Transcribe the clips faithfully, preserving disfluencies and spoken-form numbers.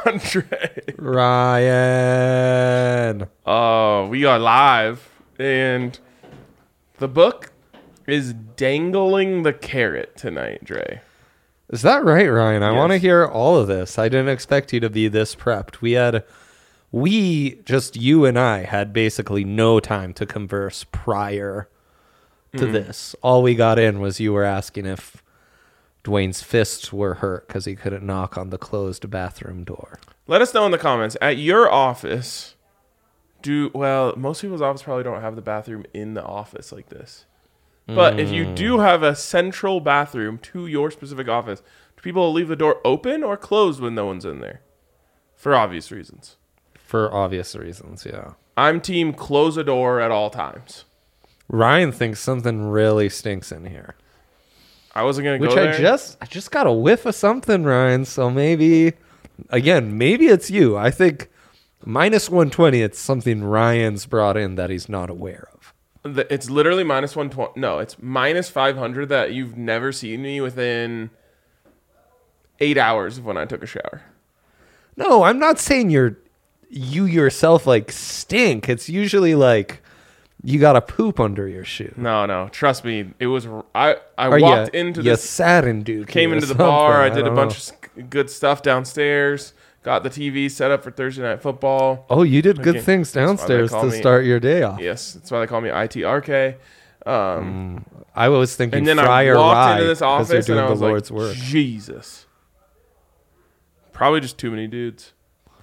Andre. Ryan. Oh, we are live, and the book is dangling the carrot tonight, Dre. Is that right, Ryan? I Yes. want to hear all of this. I didn't expect you to be this prepped. We had, we, just you and I, had basically no time to converse prior to Mm. this. All we got in was you were asking if Dwayne's fists were hurt because he couldn't knock on the closed bathroom door. Let us know in the comments. At your office, do well, most people's office probably don't have the bathroom in the office like this. But if you do have a central bathroom to your specific office, do people leave the door open or closed when no one's in there? For obvious reasons. For obvious reasons, yeah. I'm team close a door at all times. Ryan thinks something really stinks in here. I wasn't going to Which go I there. just I just got a whiff of something, Ryan. So maybe, again, maybe it's you. I think minus one twenty, it's something Ryan's brought in that he's not aware of. The- It's literally minus one twenty. No, it's minus five hundred that you've never seen me within eight hours of when I took a shower. No, I'm not saying you're you yourself like stink. It's usually like you got a poop under your shoe. No, no. Trust me. It was. I, I Or walked you, into you this. saddened dude. Came into the bar. I did a bunch of s- good stuff downstairs. Got the T V set up for Thursday Night Football. Oh, you did good Okay. things That's why they downstairs call to me- start your day off. Yes, that's why they call me I T R K. Um, I was thinking and then fry I or walked rye into this 'cause office you're and I doing was the like, Lord's work. Jesus. Probably just too many dudes.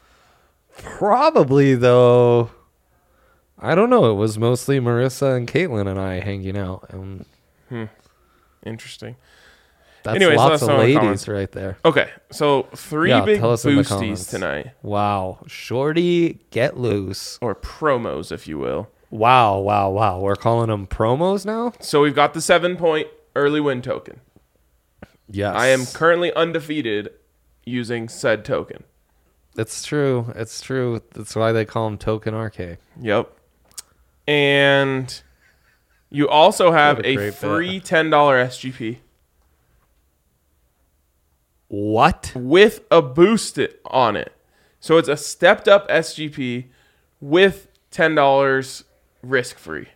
Probably though. I don't know. It was mostly Marissa and Caitlin and I hanging out, and Interesting. that's Anyways, let lots us of know in the ladies comments. right there. Okay, so three Yeah, big tell us in the boosties comments. tonight. Wow, Shorty, get loose! Or promos, if you will. Wow, wow, wow. We're calling them promos now. So we've got the seven point early win token. Yes, I am currently undefeated using said token. It's true. It's true. That's why they call them Token R K. Yep. And you also have What a a, great free ten dollars S G P What? with a boost it on it. So it's a stepped up S G P with ten dollars risk free.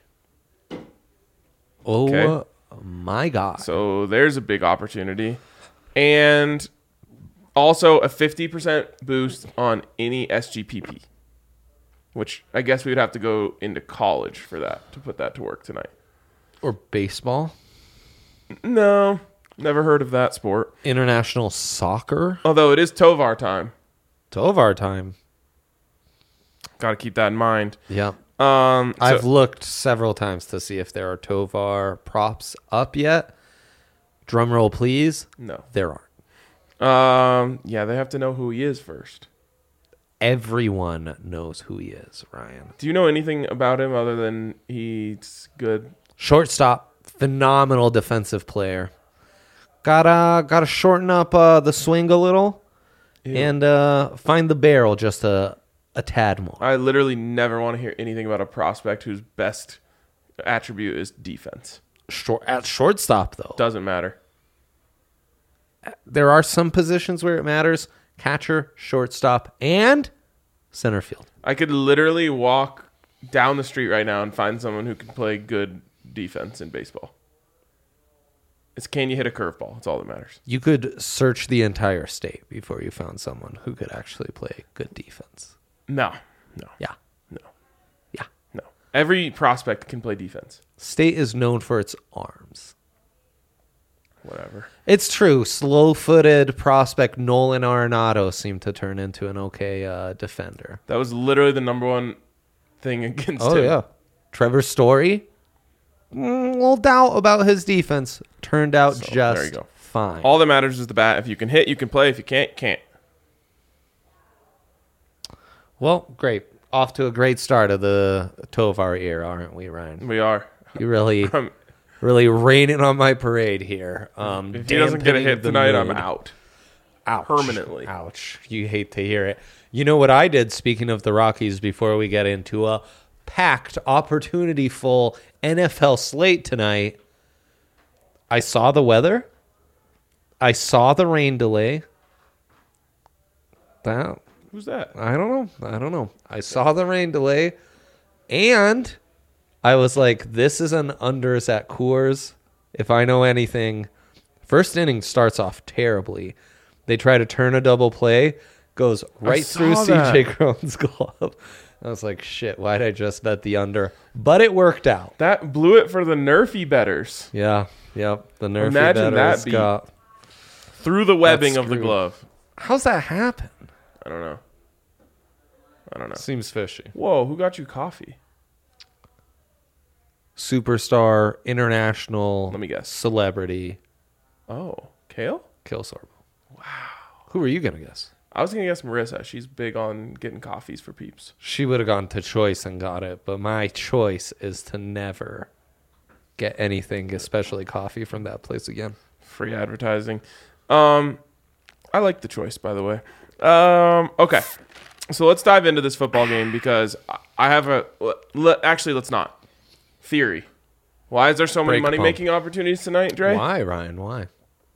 Oh Okay. my God! So there's a big opportunity. And also a fifty percent boost on any S G P P, which I guess we'd have to go into college for that to put that to work tonight. Or baseball, No, never heard of that sport. international soccer, Although it is Tovar time. Tovar time. Got to keep that in mind. Yeah. Um, so- I've looked several times to see if there are Tovar props up yet. Drum roll, please. no. There aren't. Um, yeah, they have to know who he is first. Everyone knows who he is, Ryan. Do you know anything about him other than he's good? Shortstop, phenomenal defensive player. Gotta gotta shorten up uh, the swing a little Ew. and uh, find the barrel just a a tad more. I literally never want to hear anything about a prospect whose best attribute is defense. Short at shortstop though, Doesn't matter. there are some positions where it matters: catcher, shortstop, and center field. I could literally walk down the street right now and find someone who can play good defense in baseball. It's can you hit a curveball? That's all that matters. You could search the entire state before you found someone who could actually play good defense. No, no, Yeah. no, Yeah. no. Every prospect can play defense. State is known for its arms. Whatever. It's true. Slow-footed prospect Nolan Arenado seemed to turn into an okay uh, defender. That was literally the number one thing against Oh, him. yeah. Trevor Story, mm, little doubt about his defense. Turned out So, just there you go. fine. All that matters is the bat. If you can hit, you can play. If you can't, can't. Well, great. Off to a great start of the Tovar era, aren't we, Ryan? We are. You really, Um, really raining on my parade here. Um, if he doesn't get a dampening hit the tonight, I'm mood. out. Ouch. Permanently. Ouch. You hate to hear it. You know what I did, speaking of the Rockies, before we get into a packed, opportunity-full N F L slate tonight? I saw the weather. I saw the rain delay. That Who's that? I don't know. I don't know. I saw the rain delay, and I was like, this is an unders at Coors. If I know anything, first inning starts off terribly. They try to turn a double play, goes right through saw C J that. Cron's glove. I was like, shit, why'd I just bet the under? But it worked out. That blew it for the Nerfy betters. Yeah, yep. The Nerfy Imagine that betters beat. got... Through the webbing That's of the screwed. glove. How's that happen? I don't know. I don't know. Seems fishy. Whoa, who got you coffee? Superstar, international, Let me guess. celebrity, Oh, Kale? Kill Sorbo. Wow. Who were you going to guess? I was going to guess Marissa. She's big on getting coffees for peeps. She would have gone to Choice and got it, but my choice is to never get anything, especially coffee, from that place again. Free advertising. Um, I like the choice, by the way. Um, okay. So let's dive into this football game because I- I have a... le- Actually, let's not. Theory. Why is there so many Break pump. money-making opportunities tonight, Dre? Why, Ryan? Why?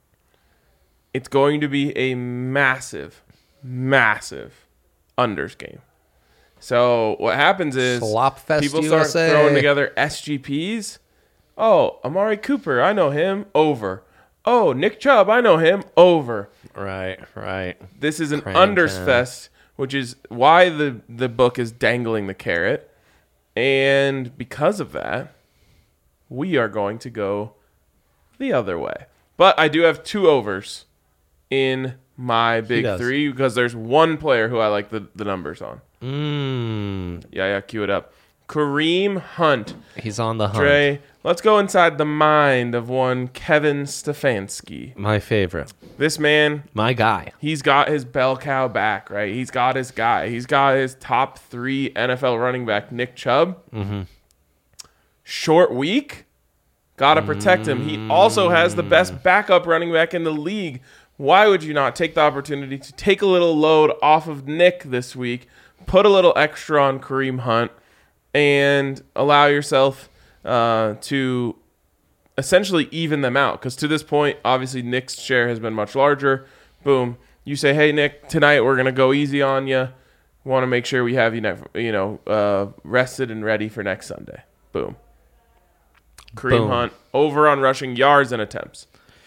It's going to be a massive, massive unders game. So what happens is Slop Fest people U start S A. throwing together S G Ps. Oh, Amari Cooper, I know him. Over. Oh, Nick Chubb, I know him. Over. Right, right. This is an Crank unders him. fest, which is why the, the book is dangling the carrot. And because of that, we are going to go the other way. But I do have two overs in my big does. three because there's one player who I like the, the numbers on. Mmm. Yeah, yeah, cue it up. Kareem Hunt. He's on the hunt. Dre, let's go inside the mind of one Kevin Stefanski. My favorite. This man, My guy. he's got his bell cow back, right? He's got his guy. He's got his top three N F L running back, Nick Chubb. Mm-hmm. Short week. Got to protect him. He also has the best backup running back in the league. Why would you not take the opportunity to take a little load off of Nick this week, put a little extra on Kareem Hunt, and allow yourself uh, to essentially even them out? Because to this point, obviously, Nick's share has been much larger. Boom. You say, hey, Nick, tonight we're going to go easy on you. Want to make sure we have you, ne- you know, uh, rested and ready for next Sunday. Boom. Kareem Boom. Hunt over on rushing yards and attempts.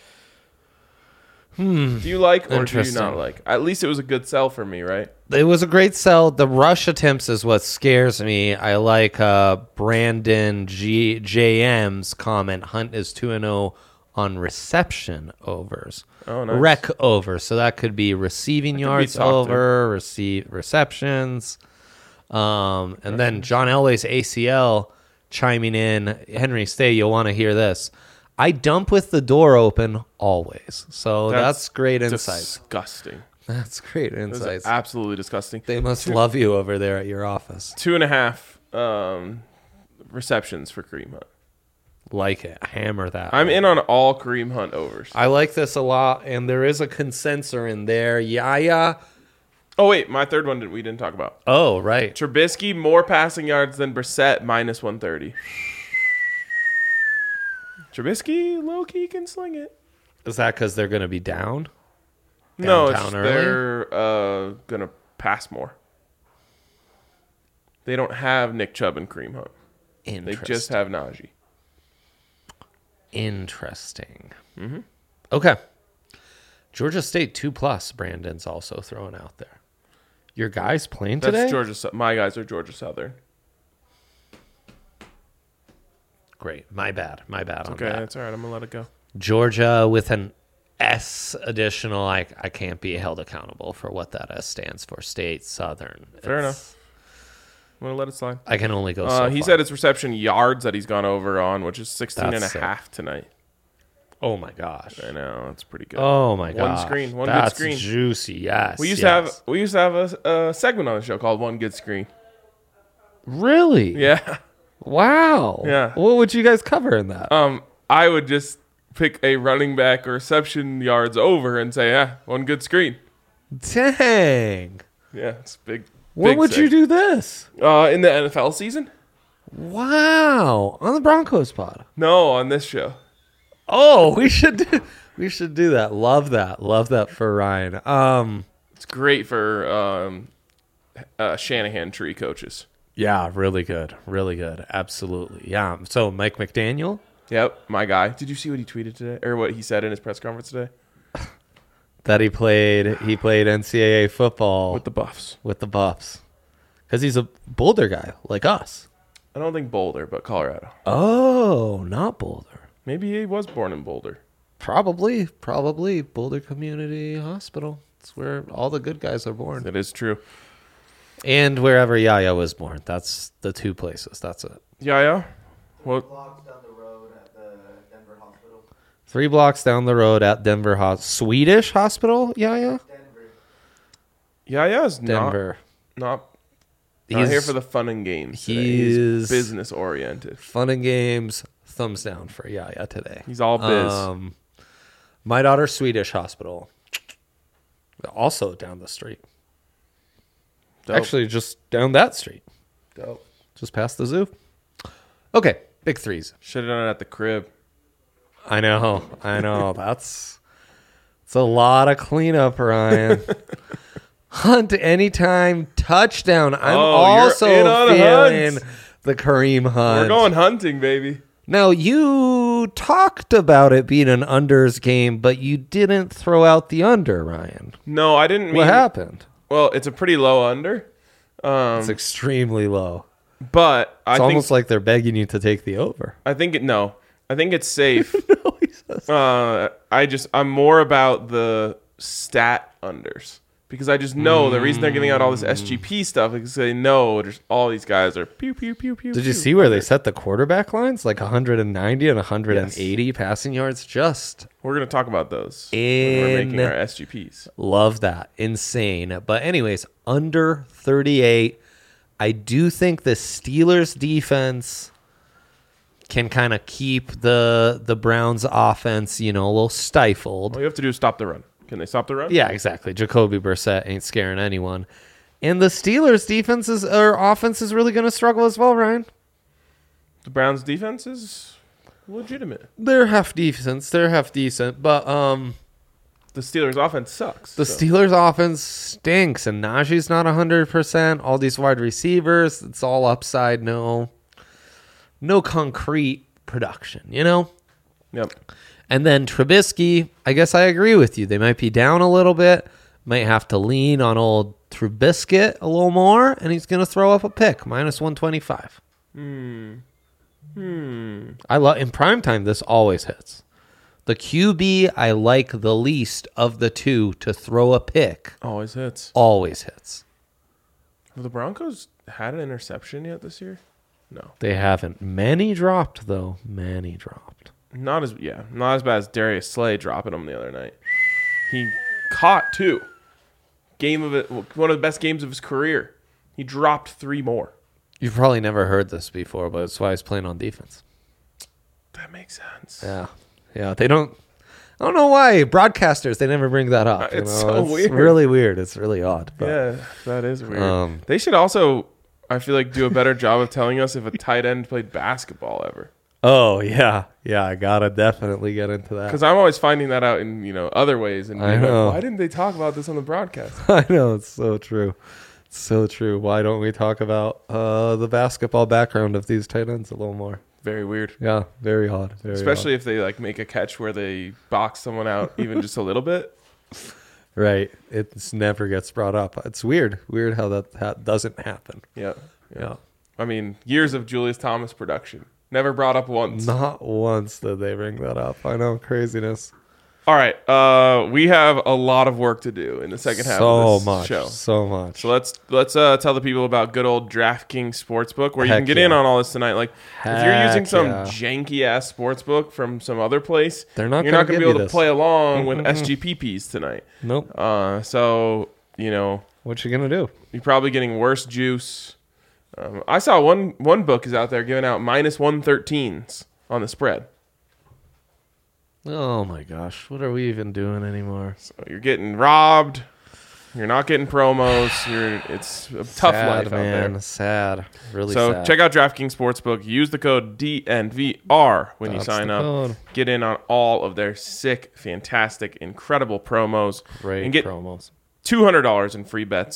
Hmm. Do you like or do you Interesting. not like? At least it was a good sell for me, right? It was a great sell. The rush attempts is what scares me. I like uh, Brandon G- J M's comment. Hunt is two and oh on reception overs. Oh, nice. Rec over. So that could be receiving be yards talked to. over, receive receptions. Um, and then John Elway's A C L chiming in. Henry, stay. You'll want to hear this. I dump with the door open always. So that's, great insight. Disgusting. That's great That's insights. absolutely disgusting. They must love you over there at your office. Two and a half um, receptions for Kareem Hunt. Like it. Hammer that. I'm in on all Kareem Hunt overs. I like this a lot, and there is a consensor in there. Yaya. Oh, wait. My third one that we didn't talk about. Oh, right. Trubisky, more passing yards than Brissett, minus one thirty. Trubisky, low-key, can sling it. Is that because they're going to be down? No, it's Downtown just early? they're uh, going to pass more. They don't have Nick Chubb and Kareem Hunt. They Interesting. just have Najee. Interesting. Mm-hmm. Okay. Georgia State two plus. Brandon's also throwing out there. Your guys playing That's today? Georgia. Sou- My guys are Georgia Southern. Great. My bad. My bad on Okay, that. that's all right. I'm going to let it go. Georgia with an S additional. I, I can't be held accountable for what that S stands for. State, Southern. Fair It's- enough. I'm going to let it slide. I can only go Uh, so he far. said it's reception yards that he's gone over on, which is sixteen and a That's sick. half tonight. Oh, my gosh. I know. It's pretty good. Oh, my One gosh. screen, one good That's screen. juicy. Yes. We used yes. to have we used to have a, a segment on the show called One Good Screen. Really? Yeah. Wow. Yeah. What would you guys cover in that? Um, I would just pick a running back or reception yards over and say, yeah, one good screen. Dang. Yeah, it's big. When big would you seg. do this? Uh, in the N F L season? Wow. On the Broncos pod. No, on this show. Oh, we should do, we should do that. Love that. Love that for Ryan. Um It's great for um, uh, Shanahan tree coaches. Yeah, really good. Really good. Absolutely. Yeah. So Mike McDaniel? Yep, my guy. Did you see what he tweeted today, or what he said in his press conference today? That he played he played N C double A football With the Buffs. with the Buffs. Because he's a Boulder guy, like us. I don't think Boulder, but Colorado. Oh, not Boulder. Maybe he was born in Boulder. Probably, probably Boulder Community Hospital. It's where all the good guys are born. That is true. And wherever Yaya was born. That's the two places. That's it. Yeah, yeah. Well, blocks down the road at the Denver hospital. Three blocks down the road at Denver Hospital. Swedish Hospital, Yaya? Denver. yeah, yeah. Is Denver. not not, He's not here for the fun and games. Today. he's- He's business oriented. Fun and games. Thumbs down for Yaya today. He's all biz. Um, my daughter's Swedish Hospital. Also down the street. Dope. Actually, just down that street. Dope. Just past the zoo. Okay, big threes. Should have done it at the crib. I know. I know. That's it's a lot of cleanup, Ryan. Hunt anytime touchdown. I'm Oh, you're also in on feeling Hunt. the Kareem Hunt. We're going hunting, baby. Now, you talked about it being an unders game, but you didn't throw out the under, Ryan. No, I didn't mean. What happened? Well, it's a pretty low under. Um, It's extremely low. but I It's think almost like they're begging you to take the over. I think it no. I think it's safe. No, he says. uh, I just I'm more about the stat unders because I just know the reason they're giving out all this S G P stuff is because they know just all these guys are pew pew pew pew. Did you pew. see where they set the quarterback lines? Like one hundred ninety and one hundred eighty passing yards. Just We're gonna talk about those when we're making In- our S G Ps. love that. Insane. But anyways, under thirty-eight. I do think the Steelers defense can kind of keep the the Browns offense, you know, a little stifled. All you have to do is stop the run. Can they stop the run? Yeah, exactly. Jacoby Brissett ain't scaring anyone. And the Steelers defense is, or offense is really going to struggle as well, Ryan. The Browns defense is legitimate. They're half decent. They're half decent. But um, The Steelers offense sucks. the so. Steelers offense stinks. And Najee's not one hundred percent. All these wide receivers, it's all upside. No, no concrete production, you know? Yep. And then Trubisky, I guess I agree with you. They might be down a little bit. Might have to lean on old Trubisky a little more, and he's going to throw up a pick, minus one twenty-five. Hmm. Hmm. I love in primetime, this always hits. The Q B I like the least of the two to throw a pick Always hits. always hits. Have the Broncos had an interception yet this year? No. They haven't. Many dropped, though. Many dropped. Not as yeah, not as bad as Darius Slay dropping them the other night. He caught two. Game of it, one of the best games of his career. He dropped three more. You've probably never heard this before, but it's why he's playing on defense. That makes sense. Yeah. Yeah. They don't. I don't know why. Broadcasters, they never bring that up. Uh, you it's know? so It's weird. really weird. It's really odd. But Yeah, that is weird. Um, they should also, I feel like, do a better job of telling us if a tight end played basketball ever. Oh, yeah. Yeah. I got to definitely get into that. Because I'm always finding that out in you know other ways, and I being like, know. why didn't they talk about this on the broadcast? I know. It's so true. It's so true. Why don't we talk about uh, the basketball background of these tight ends a little more? Very weird. Yeah. Very odd. Very Especially if they like make a catch where they box someone out even just a little bit. odd. Right. It never gets brought up. It's weird. Weird how that, that doesn't happen. Yeah. Yeah. I mean, years of Julius Thomas production. Never brought up once. Not once did they bring that up. I know. Craziness. All right. Uh, we have a lot of work to do in the second half so of this much. show. So much. So let's let's uh, tell the people about good old DraftKings Sportsbook, where you Heck can get yeah. in on all this tonight. Like if you're using Heck some yeah. janky ass sportsbook from some other place, They're not you're gonna not going to give be you able to this. play along with S G P Ps tonight. Nope. Uh, so you know What you gonna do? you're probably getting worse juice. Um, I saw one one book is out there giving out minus one thirteens on the spread. Oh my gosh, what are we even doing anymore? So you're getting robbed. You're not getting promos. You're it's a tough sad, life man. out there. Sad, really. So sad. check out DraftKings Sportsbook. Use the code D N V R when you That's sign the up. code. Get in on all of their sick, fantastic, incredible promos. Great and get promos. two hundred dollars in free bets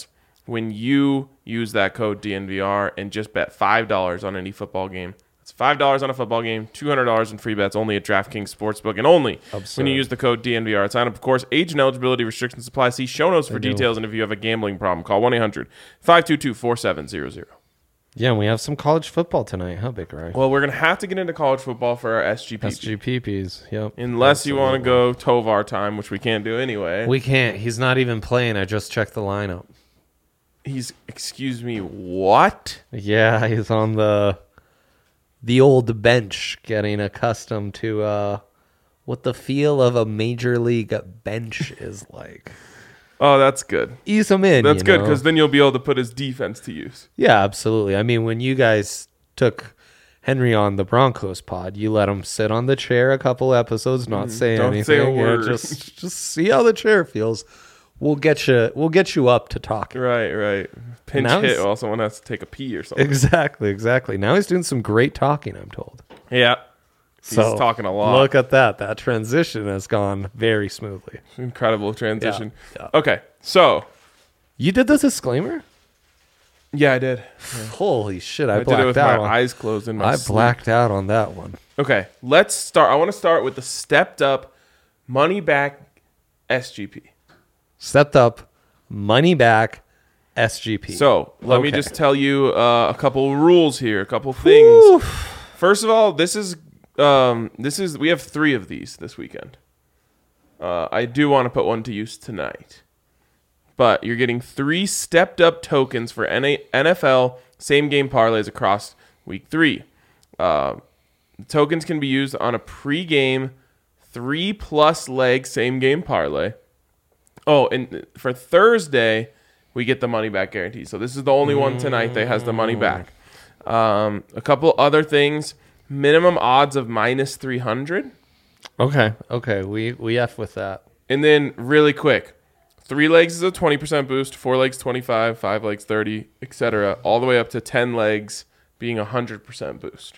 when you use that code D N V R and just bet five dollars on any football game. It's five dollars on a football game, two hundred dollars in free bets only at DraftKings Sportsbook, and only Absurd. when you use the code D N V R at sign up. Of course, age and eligibility restrictions apply. See show notes for They do. details, and if you have a gambling problem, call one eight hundred five two two four seven zero zero. Yeah, and we have some college football tonight, huh, Big Ray? Well, we're going to have to get into college football for our S G P P. S G P Ps, yep. Unless you want to Absolutely. go Tovar time, which we can't do anyway. We can't. He's not even playing. I just checked the lineup. He's, excuse me, what? Yeah, he's on the the old bench, getting accustomed to uh, what the feel of a major league bench is like. Oh, that's good. Ease him in. That's you good know? because then you'll be able to put his defense to use. Yeah, absolutely. I mean, when you guys took Henry on the Broncos pod, you let him sit on the chair a couple episodes, not say Mm, don't anything. say a Yeah, word. just just see how the chair feels. We'll get you. We'll get you up to talking. Right, right. Pinch Now hit he's- while someone has to take a pee or something. Exactly, exactly. Now he's doing some great talking, I'm told. Yeah. He's So, talking a lot. Look at that. That transition has gone very smoothly. Incredible transition. Yeah, Okay, so, You did the disclaimer? yeah, I did. Holy shit, I, I, did blacked it with out. my on, eyes closed in my I sleep. blacked out on that one. Okay, let's start. I want to start with the stepped up money back S G P. Stepped up, money back, S G P. So let me Okay. just tell you uh, a couple rules here, a couple things. First of all, this is um, this is we have three of these this weekend. Uh, I do want to put one to use tonight, but you're getting three stepped up tokens for N F L same game parlays across week three. Uh, tokens can be used on a pre-game three plus leg same game parlay. Oh, and for Thursday, we get the money back guarantee. So this is the only one tonight that has the money back. Um, a couple other things: minimum odds of minus three hundred, Okay, okay. We, we F with that. and then really quick, three legs is a twenty percent boost, four legs twenty-five, five legs thirty, et cetera, all the way up to ten legs being a hundred percent boost.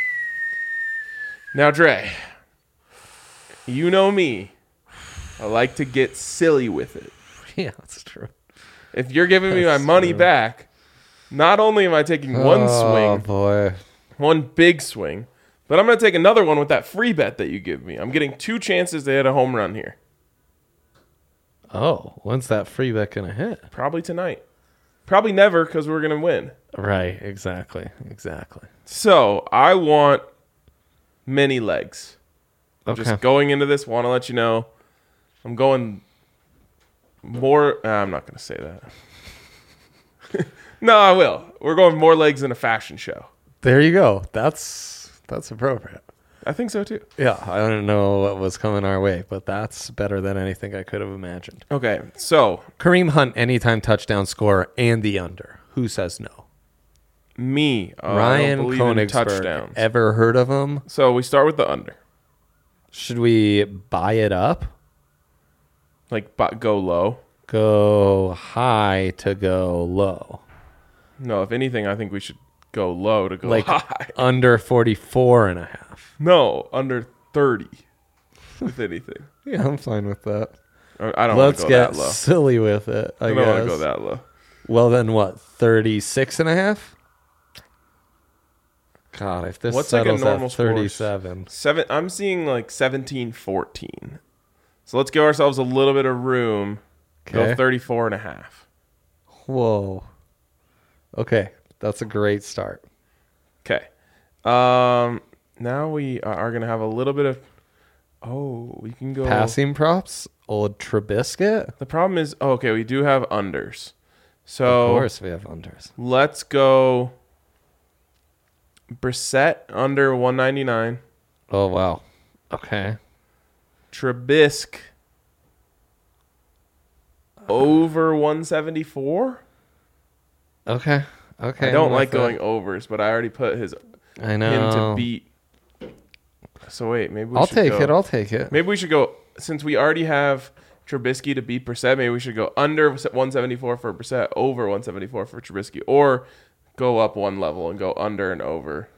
Now, Dre, you know me. I like to get silly with it. Yeah, that's true. If you're giving me my That's money true. back, not only am I taking one Oh, swing, boy. one big swing, but I'm going to take another one with that free bet that you give me. I'm getting two chances to hit a home run here. Oh, when's that free bet going to hit? Probably tonight. Probably never because we're going to win. Right, exactly, exactly. So I want many legs. I'm Okay. just going into this, want to let you know I'm going more. Uh, I'm not going to say that. No, I will. We're going more legs than a fashion show. There you go. That's that's appropriate. I think so too. Yeah, I don't know what was coming our way, but that's better than anything I could have imagined. Okay, so Kareem Hunt, anytime touchdown scorer, and the under. Who says no? me, uh, I Ryan don't believe in Koenigsberg. touchdowns. Ever heard of him? So we start with the under. Should we buy it up? Like bu- go low. Go high to go low. No, if anything, I think we should go low to go Like high. under forty-four and a half. No, under thirty. If anything, Yeah, I'm fine with that. Or I don't want Let's to go get that low. silly with it, I, I don't guess. want to go that low. Well, then what? thirty-six and a half? God, if this What's like a settles normal at score? thirty-seven. Seven. I'm seeing like seventeen fourteen. So let's give ourselves a little bit of room. Go Okay. thirty-four and a half. Whoa. Okay, that's a great start. Okay. Um. Now we are going to have a little bit of. Oh, we can go. Passing props? Old Trubisky? The problem is, oh, okay, we do have unders. Of So course we have unders. let's go Brissett under one ninety-nine. Oh, wow. Okay. Trubisky over one seventy-four. Okay. Okay. I don't I'm like with going it. overs, but I already put his I him know. to beat. So wait, maybe we I'll should take go, it. I'll take it. Maybe we should go, since we already have Trubisky to beat Brissett, maybe we should go under one seventy-four for Brissett, over one seventy-four for Trubisky, or go up one level and go under and over.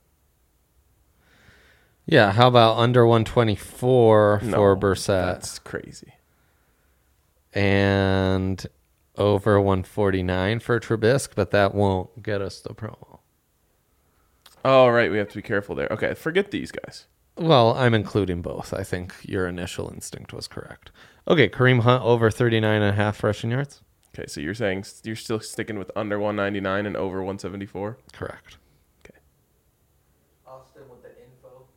Yeah, how about under one twenty-four No, for Brissett? That's crazy. And over one forty-nine for Trubisky, but that won't get us the promo. Oh, right. We have to be careful there. Okay, forget these guys. Well, I'm including both. I think your initial instinct was correct. Okay, Kareem Hunt over thirty-nine and a half rushing yards. Okay, so you're saying s- you're still sticking with under one ninety-nine and over one seventy-four? Correct. Austin with the info.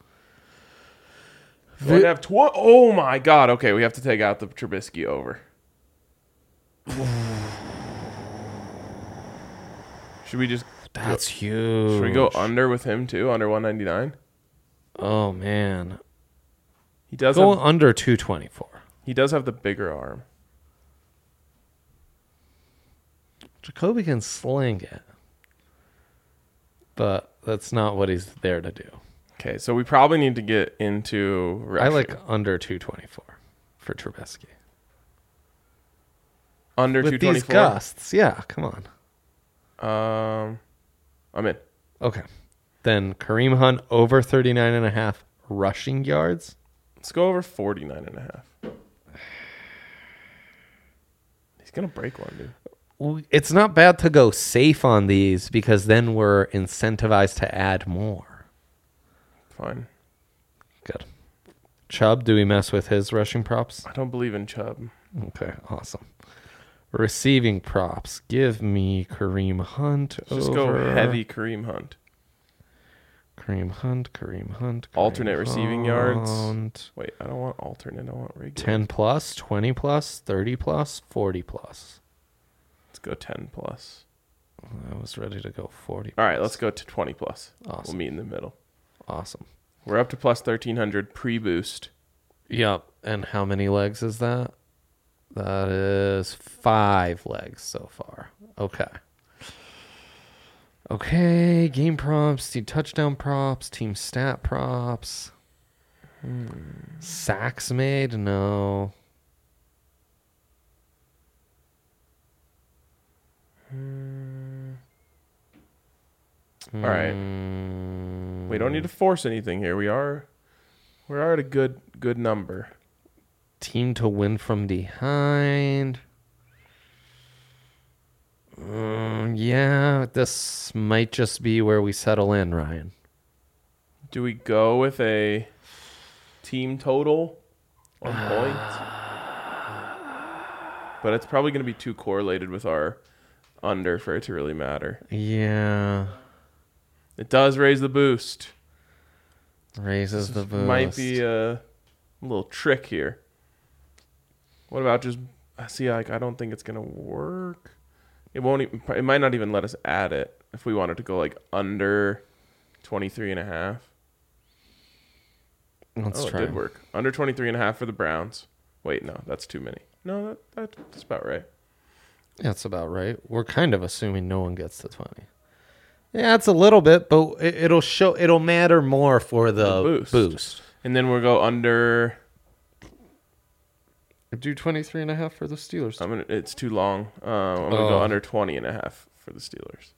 We have tw- oh, my God. Okay, we have to take out the Trubisky over. Should we just... That's huge. Should we go under with him, too? Under one ninety-nine? Oh, man. He does Go have, under two twenty-four. he does have the bigger arm. Jacoby can sling it. But that's not what he's there to do. Okay, so we probably need to get into I rushing. like under two twenty-four for Trubisky. under With two these twenty-four. gusts. Yeah, come on. Um, I'm in. Okay. Then Kareem Hunt over thirty-nine and a half rushing yards. Let's go over forty-nine and a half. He's going to break one, dude. Well, it's not bad to go safe on these because then we're incentivized to add more. Fine. Good. Chubb, do we mess with his rushing props? I don't believe in Chubb. Okay, awesome. Receiving props. Give me Kareem Hunt. Just over go heavy Kareem Hunt. Kareem Hunt, Kareem Hunt. Kareem Alternate receiving yards. Hunt. Wait, I don't want alternate. I want regular. ten plus, twenty plus, thirty plus, forty plus. Let's go ten plus. I was ready to go forty. All right, let's go to twenty plus. Awesome. We'll meet in the middle. Awesome. We're up to plus thirteen hundred pre-boost. Yep. And how many legs is that? That is five legs so far. Okay. Okay. Game props, team touchdown props, team stat props. Hmm. Sacks made? No. All right. Mm, We don't need to force anything here. We are, we are at a good, good number. Team to win from behind. Mm, yeah, this might just be where we settle in, Ryan. Do we go with a team total on points? But it's probably going to be too correlated with our under for it to really matter. Yeah. It does raise the boost. Raises the boost. Might be a little trick here. What about just see? Like, I don't think it's gonna work. It won't. Even, it might not even let us add it if we wanted to go like under twenty-three and a half. Let's Oh, try. it did work. Under twenty-three and a half for the Browns. Wait, no, that's too many. No, that, that's about right. That's about right. We're kind of assuming no one gets to twenty. Yeah, it's a little bit, but it, it'll show. It'll matter more for the, The boost. boost. And then we'll go under. Do twenty-three and a half for the Steelers. I'm gonna. It's too long. Uh, I'm gonna Oh. go under twenty and a half for the Steelers.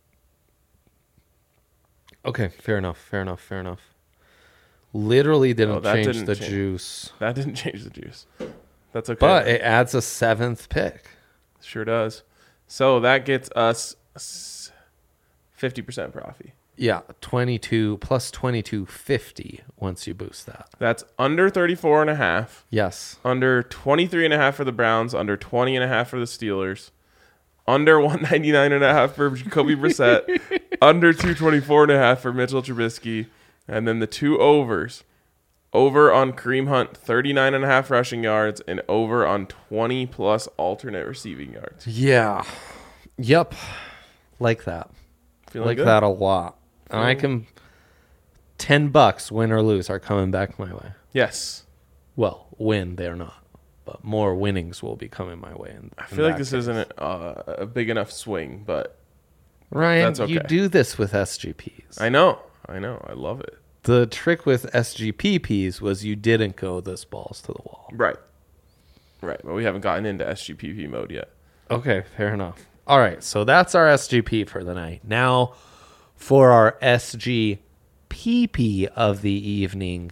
Okay, fair enough. Fair enough. Fair enough. Literally didn't Oh, that change didn't the change. juice, That didn't change the juice. That's okay. but it adds a seventh pick. Sure does. So that gets us fifty percent profit. Yeah, twenty-two plus twenty-two fifty once you boost that. That's under thirty-four and a half, Yes. under twenty-three and a half for the Browns, under twenty and a half for the Steelers, under one ninety-nine and a half for Jacoby Brissett, under two twenty-four and a half for Mitchell Trubisky, and then the two overs. Over on Kareem Hunt, thirty-nine and a half rushing yards, and over on twenty plus alternate receiving yards. Yeah. Yep. Like that. Feeling like good? that a lot. And I Feeling- can ten bucks, win or lose, are coming back my way. Yes. Well, win they're not, but more winnings will be coming my way. In, I in feel like that this case. isn't uh, a big enough swing, but Ryan. that's okay. You do this with S G Ps. I know. I know. I love it. The trick with S G P Ps was you didn't go this balls to the wall. Right. Right. But we haven't gotten into S G P P mode yet. Okay, fair enough. All right, so that's our S G P for the night. Now, for our S G P P of the evening,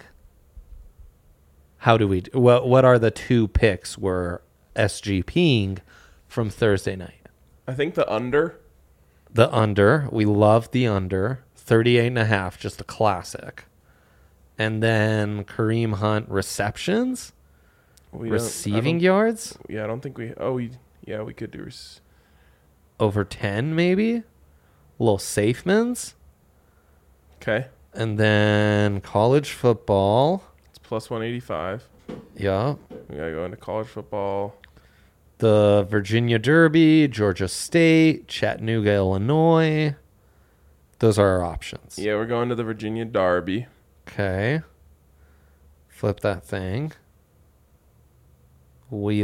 how do we? What what are the two picks we're SGPing from Thursday night. I think the under. The under. We love the under. thirty-eight and a half, just a classic. And then Kareem Hunt receptions, We don't- I receiving don't- yards, Yeah, I don't think we. Oh, we, yeah, we could do. Res- over ten maybe. Little safemans. okay, And then college football. it's plus one eighty-five. Yeah. We gotta go into college football. The Virginia Derby, Georgia State, Chattanooga, Illinois. Those are our options. Yeah, we're going to the Virginia Derby. Okay. Flip that thing. We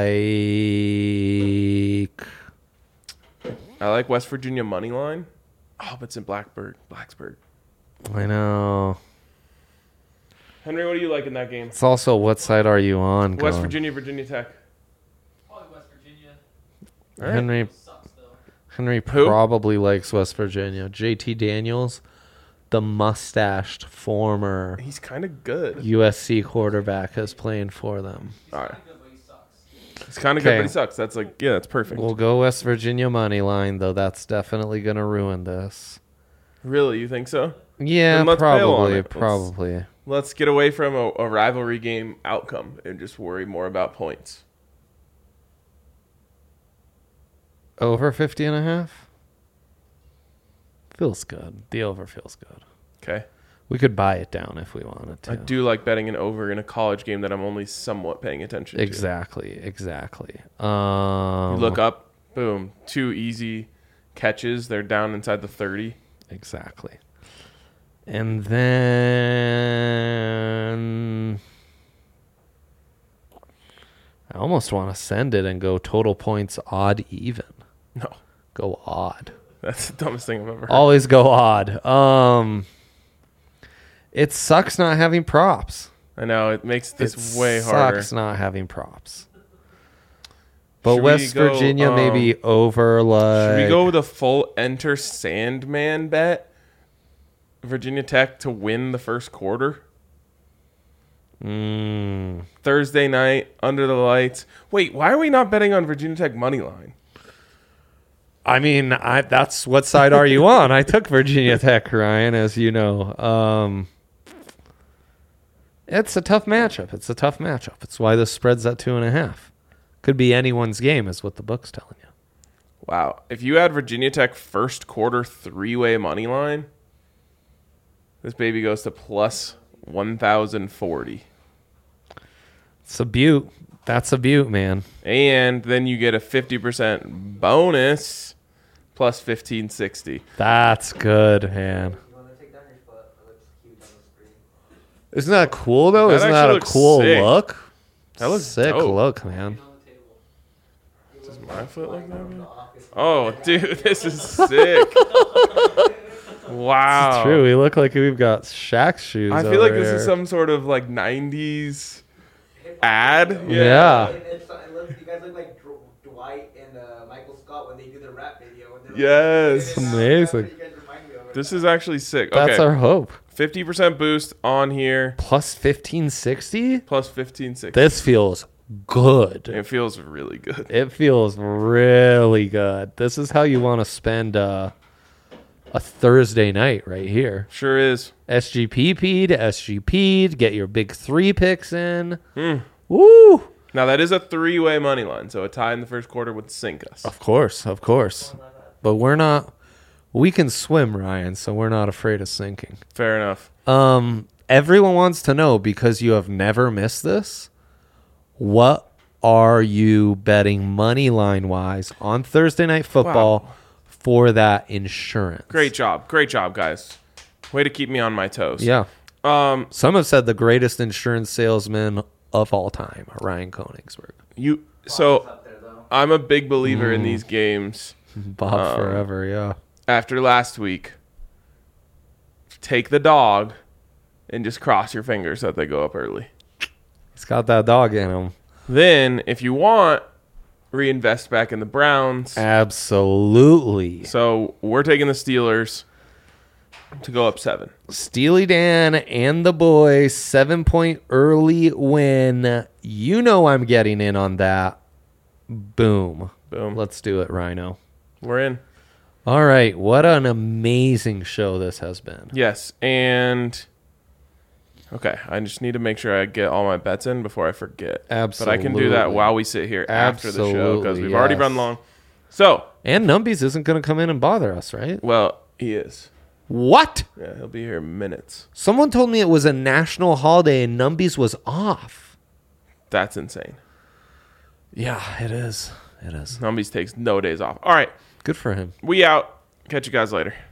like... I like West Virginia money line. Oh, but it's in Blacksburg. Blacksburg. I know. Henry, what do you like in that game? It's also, what side are you on? West going? Virginia, Virginia Tech. Probably West Virginia. All right. Henry Sucks though. Henry Who? probably likes West Virginia. J T Daniels, the mustached former He's kind of good. U S C quarterback, is playing for them. He's All kind right. of good, but he sucks. He's kind of good, Okay. but he sucks. That's like, yeah, that's perfect. We'll go West Virginia money line, though. That's definitely going to ruin this. Really, you think so? Yeah, Then let's bail on probably. it. Let's- Probably. Let's get away from a, a rivalry game outcome and just worry more about points. Over fifty and a half? Feels good. The over feels good. Okay. We could buy it down if we wanted to. I do like betting an over in a college game that I'm only somewhat paying attention to. Exactly. Exactly. Um, You look up, boom, two easy catches. They're down inside the thirty. Exactly. And then I almost want to send it and go total points odd even. No, Go odd. that's the dumbest thing I've ever heard. Always go odd. Um it sucks not having props. I know, it makes this it way harder. sucks not having props. But Should we West go, Virginia um, maybe over like Should we go with a full enter Sandman bet? Virginia Tech to win the first quarter? Mm, Thursday night, under the lights. Wait, why are we not betting on Virginia Tech money line? I mean, I that's what side are you on? I took Virginia Tech, Ryan, as you know. Um, it's a tough matchup. It's a tough matchup. It's why the spread's at two and a half. Could be anyone's game, is what the book's telling you. Wow. If you had Virginia Tech first quarter three-way money line, this baby goes to plus one thousand forty. It's a beaut. That's a beaut, man. And then you get a fifty percent bonus plus fifteen sixty. That's good, man. You want to take down your foot? It looks huge on the screen. Isn't that cool, though? That Isn't actually that a looks cool sick. look? That looks sick dope. look, man. On the table. Does my foot look that way? Oh, dude, this is sick. Wow. It's true. We look like we've got Shaq's shoes. I feel like over this here. is some sort of like nineties ad. Yeah. It, it's, it looks, you guys look like Dr- Dwight and uh, Michael Scott when they do their rap video. And they're Yes. Like, Amazing. That's what you guys remind me of right This now. is actually sick. That's Okay. our hope. fifty percent boost on here Plus fifteen sixty? plus fifteen sixty. This feels good. It feels really good. It feels really good. This is how you want to spend uh, a Thursday night right here. Sure is. S G P P'd, S G P'd, get your big three picks in. Hmm. Woo! Now that is a three-way money line, so a tie in the first quarter would sink us. Of course, of course. But we're not, we can swim, Ryan, so we're not afraid of sinking. Fair enough. Um, everyone wants to know, because you have never missed this, what are you betting money line wise on Thursday Night Football Wow. for that insurance? Great job. Great job, guys. Way to keep me on my toes. Yeah. Um, Some have said the greatest insurance salesman of all time, Ryan Koenigsberg. you so Up there, though. I'm a big believer in these games. Bob Um, forever, yeah. After last week, take the dog and just cross your fingers that they go up early. He's got that dog in him. Then, if you want, reinvest back in the Browns. Absolutely. So we're taking the Steelers to go up seven. Steely Dan and the boys, seven point early win. You know I'm getting in on that. Boom. Boom. Let's do it, Rhino. We're in. All right. What an amazing show this has been. Yes, and okay, I just need to make sure I get all my bets in before I forget. Absolutely. But I can do that while we sit here after the show because Absolutely, we've already yes. run long. So, And Numbies isn't going to come in and bother us, right? well, he is. What? Yeah, he'll be here in minutes. Someone told me it was a national holiday and Numbies was off. That's insane. Yeah, it is. It is. Numbies takes no days off. All right, Good for him. we out. Catch you guys later.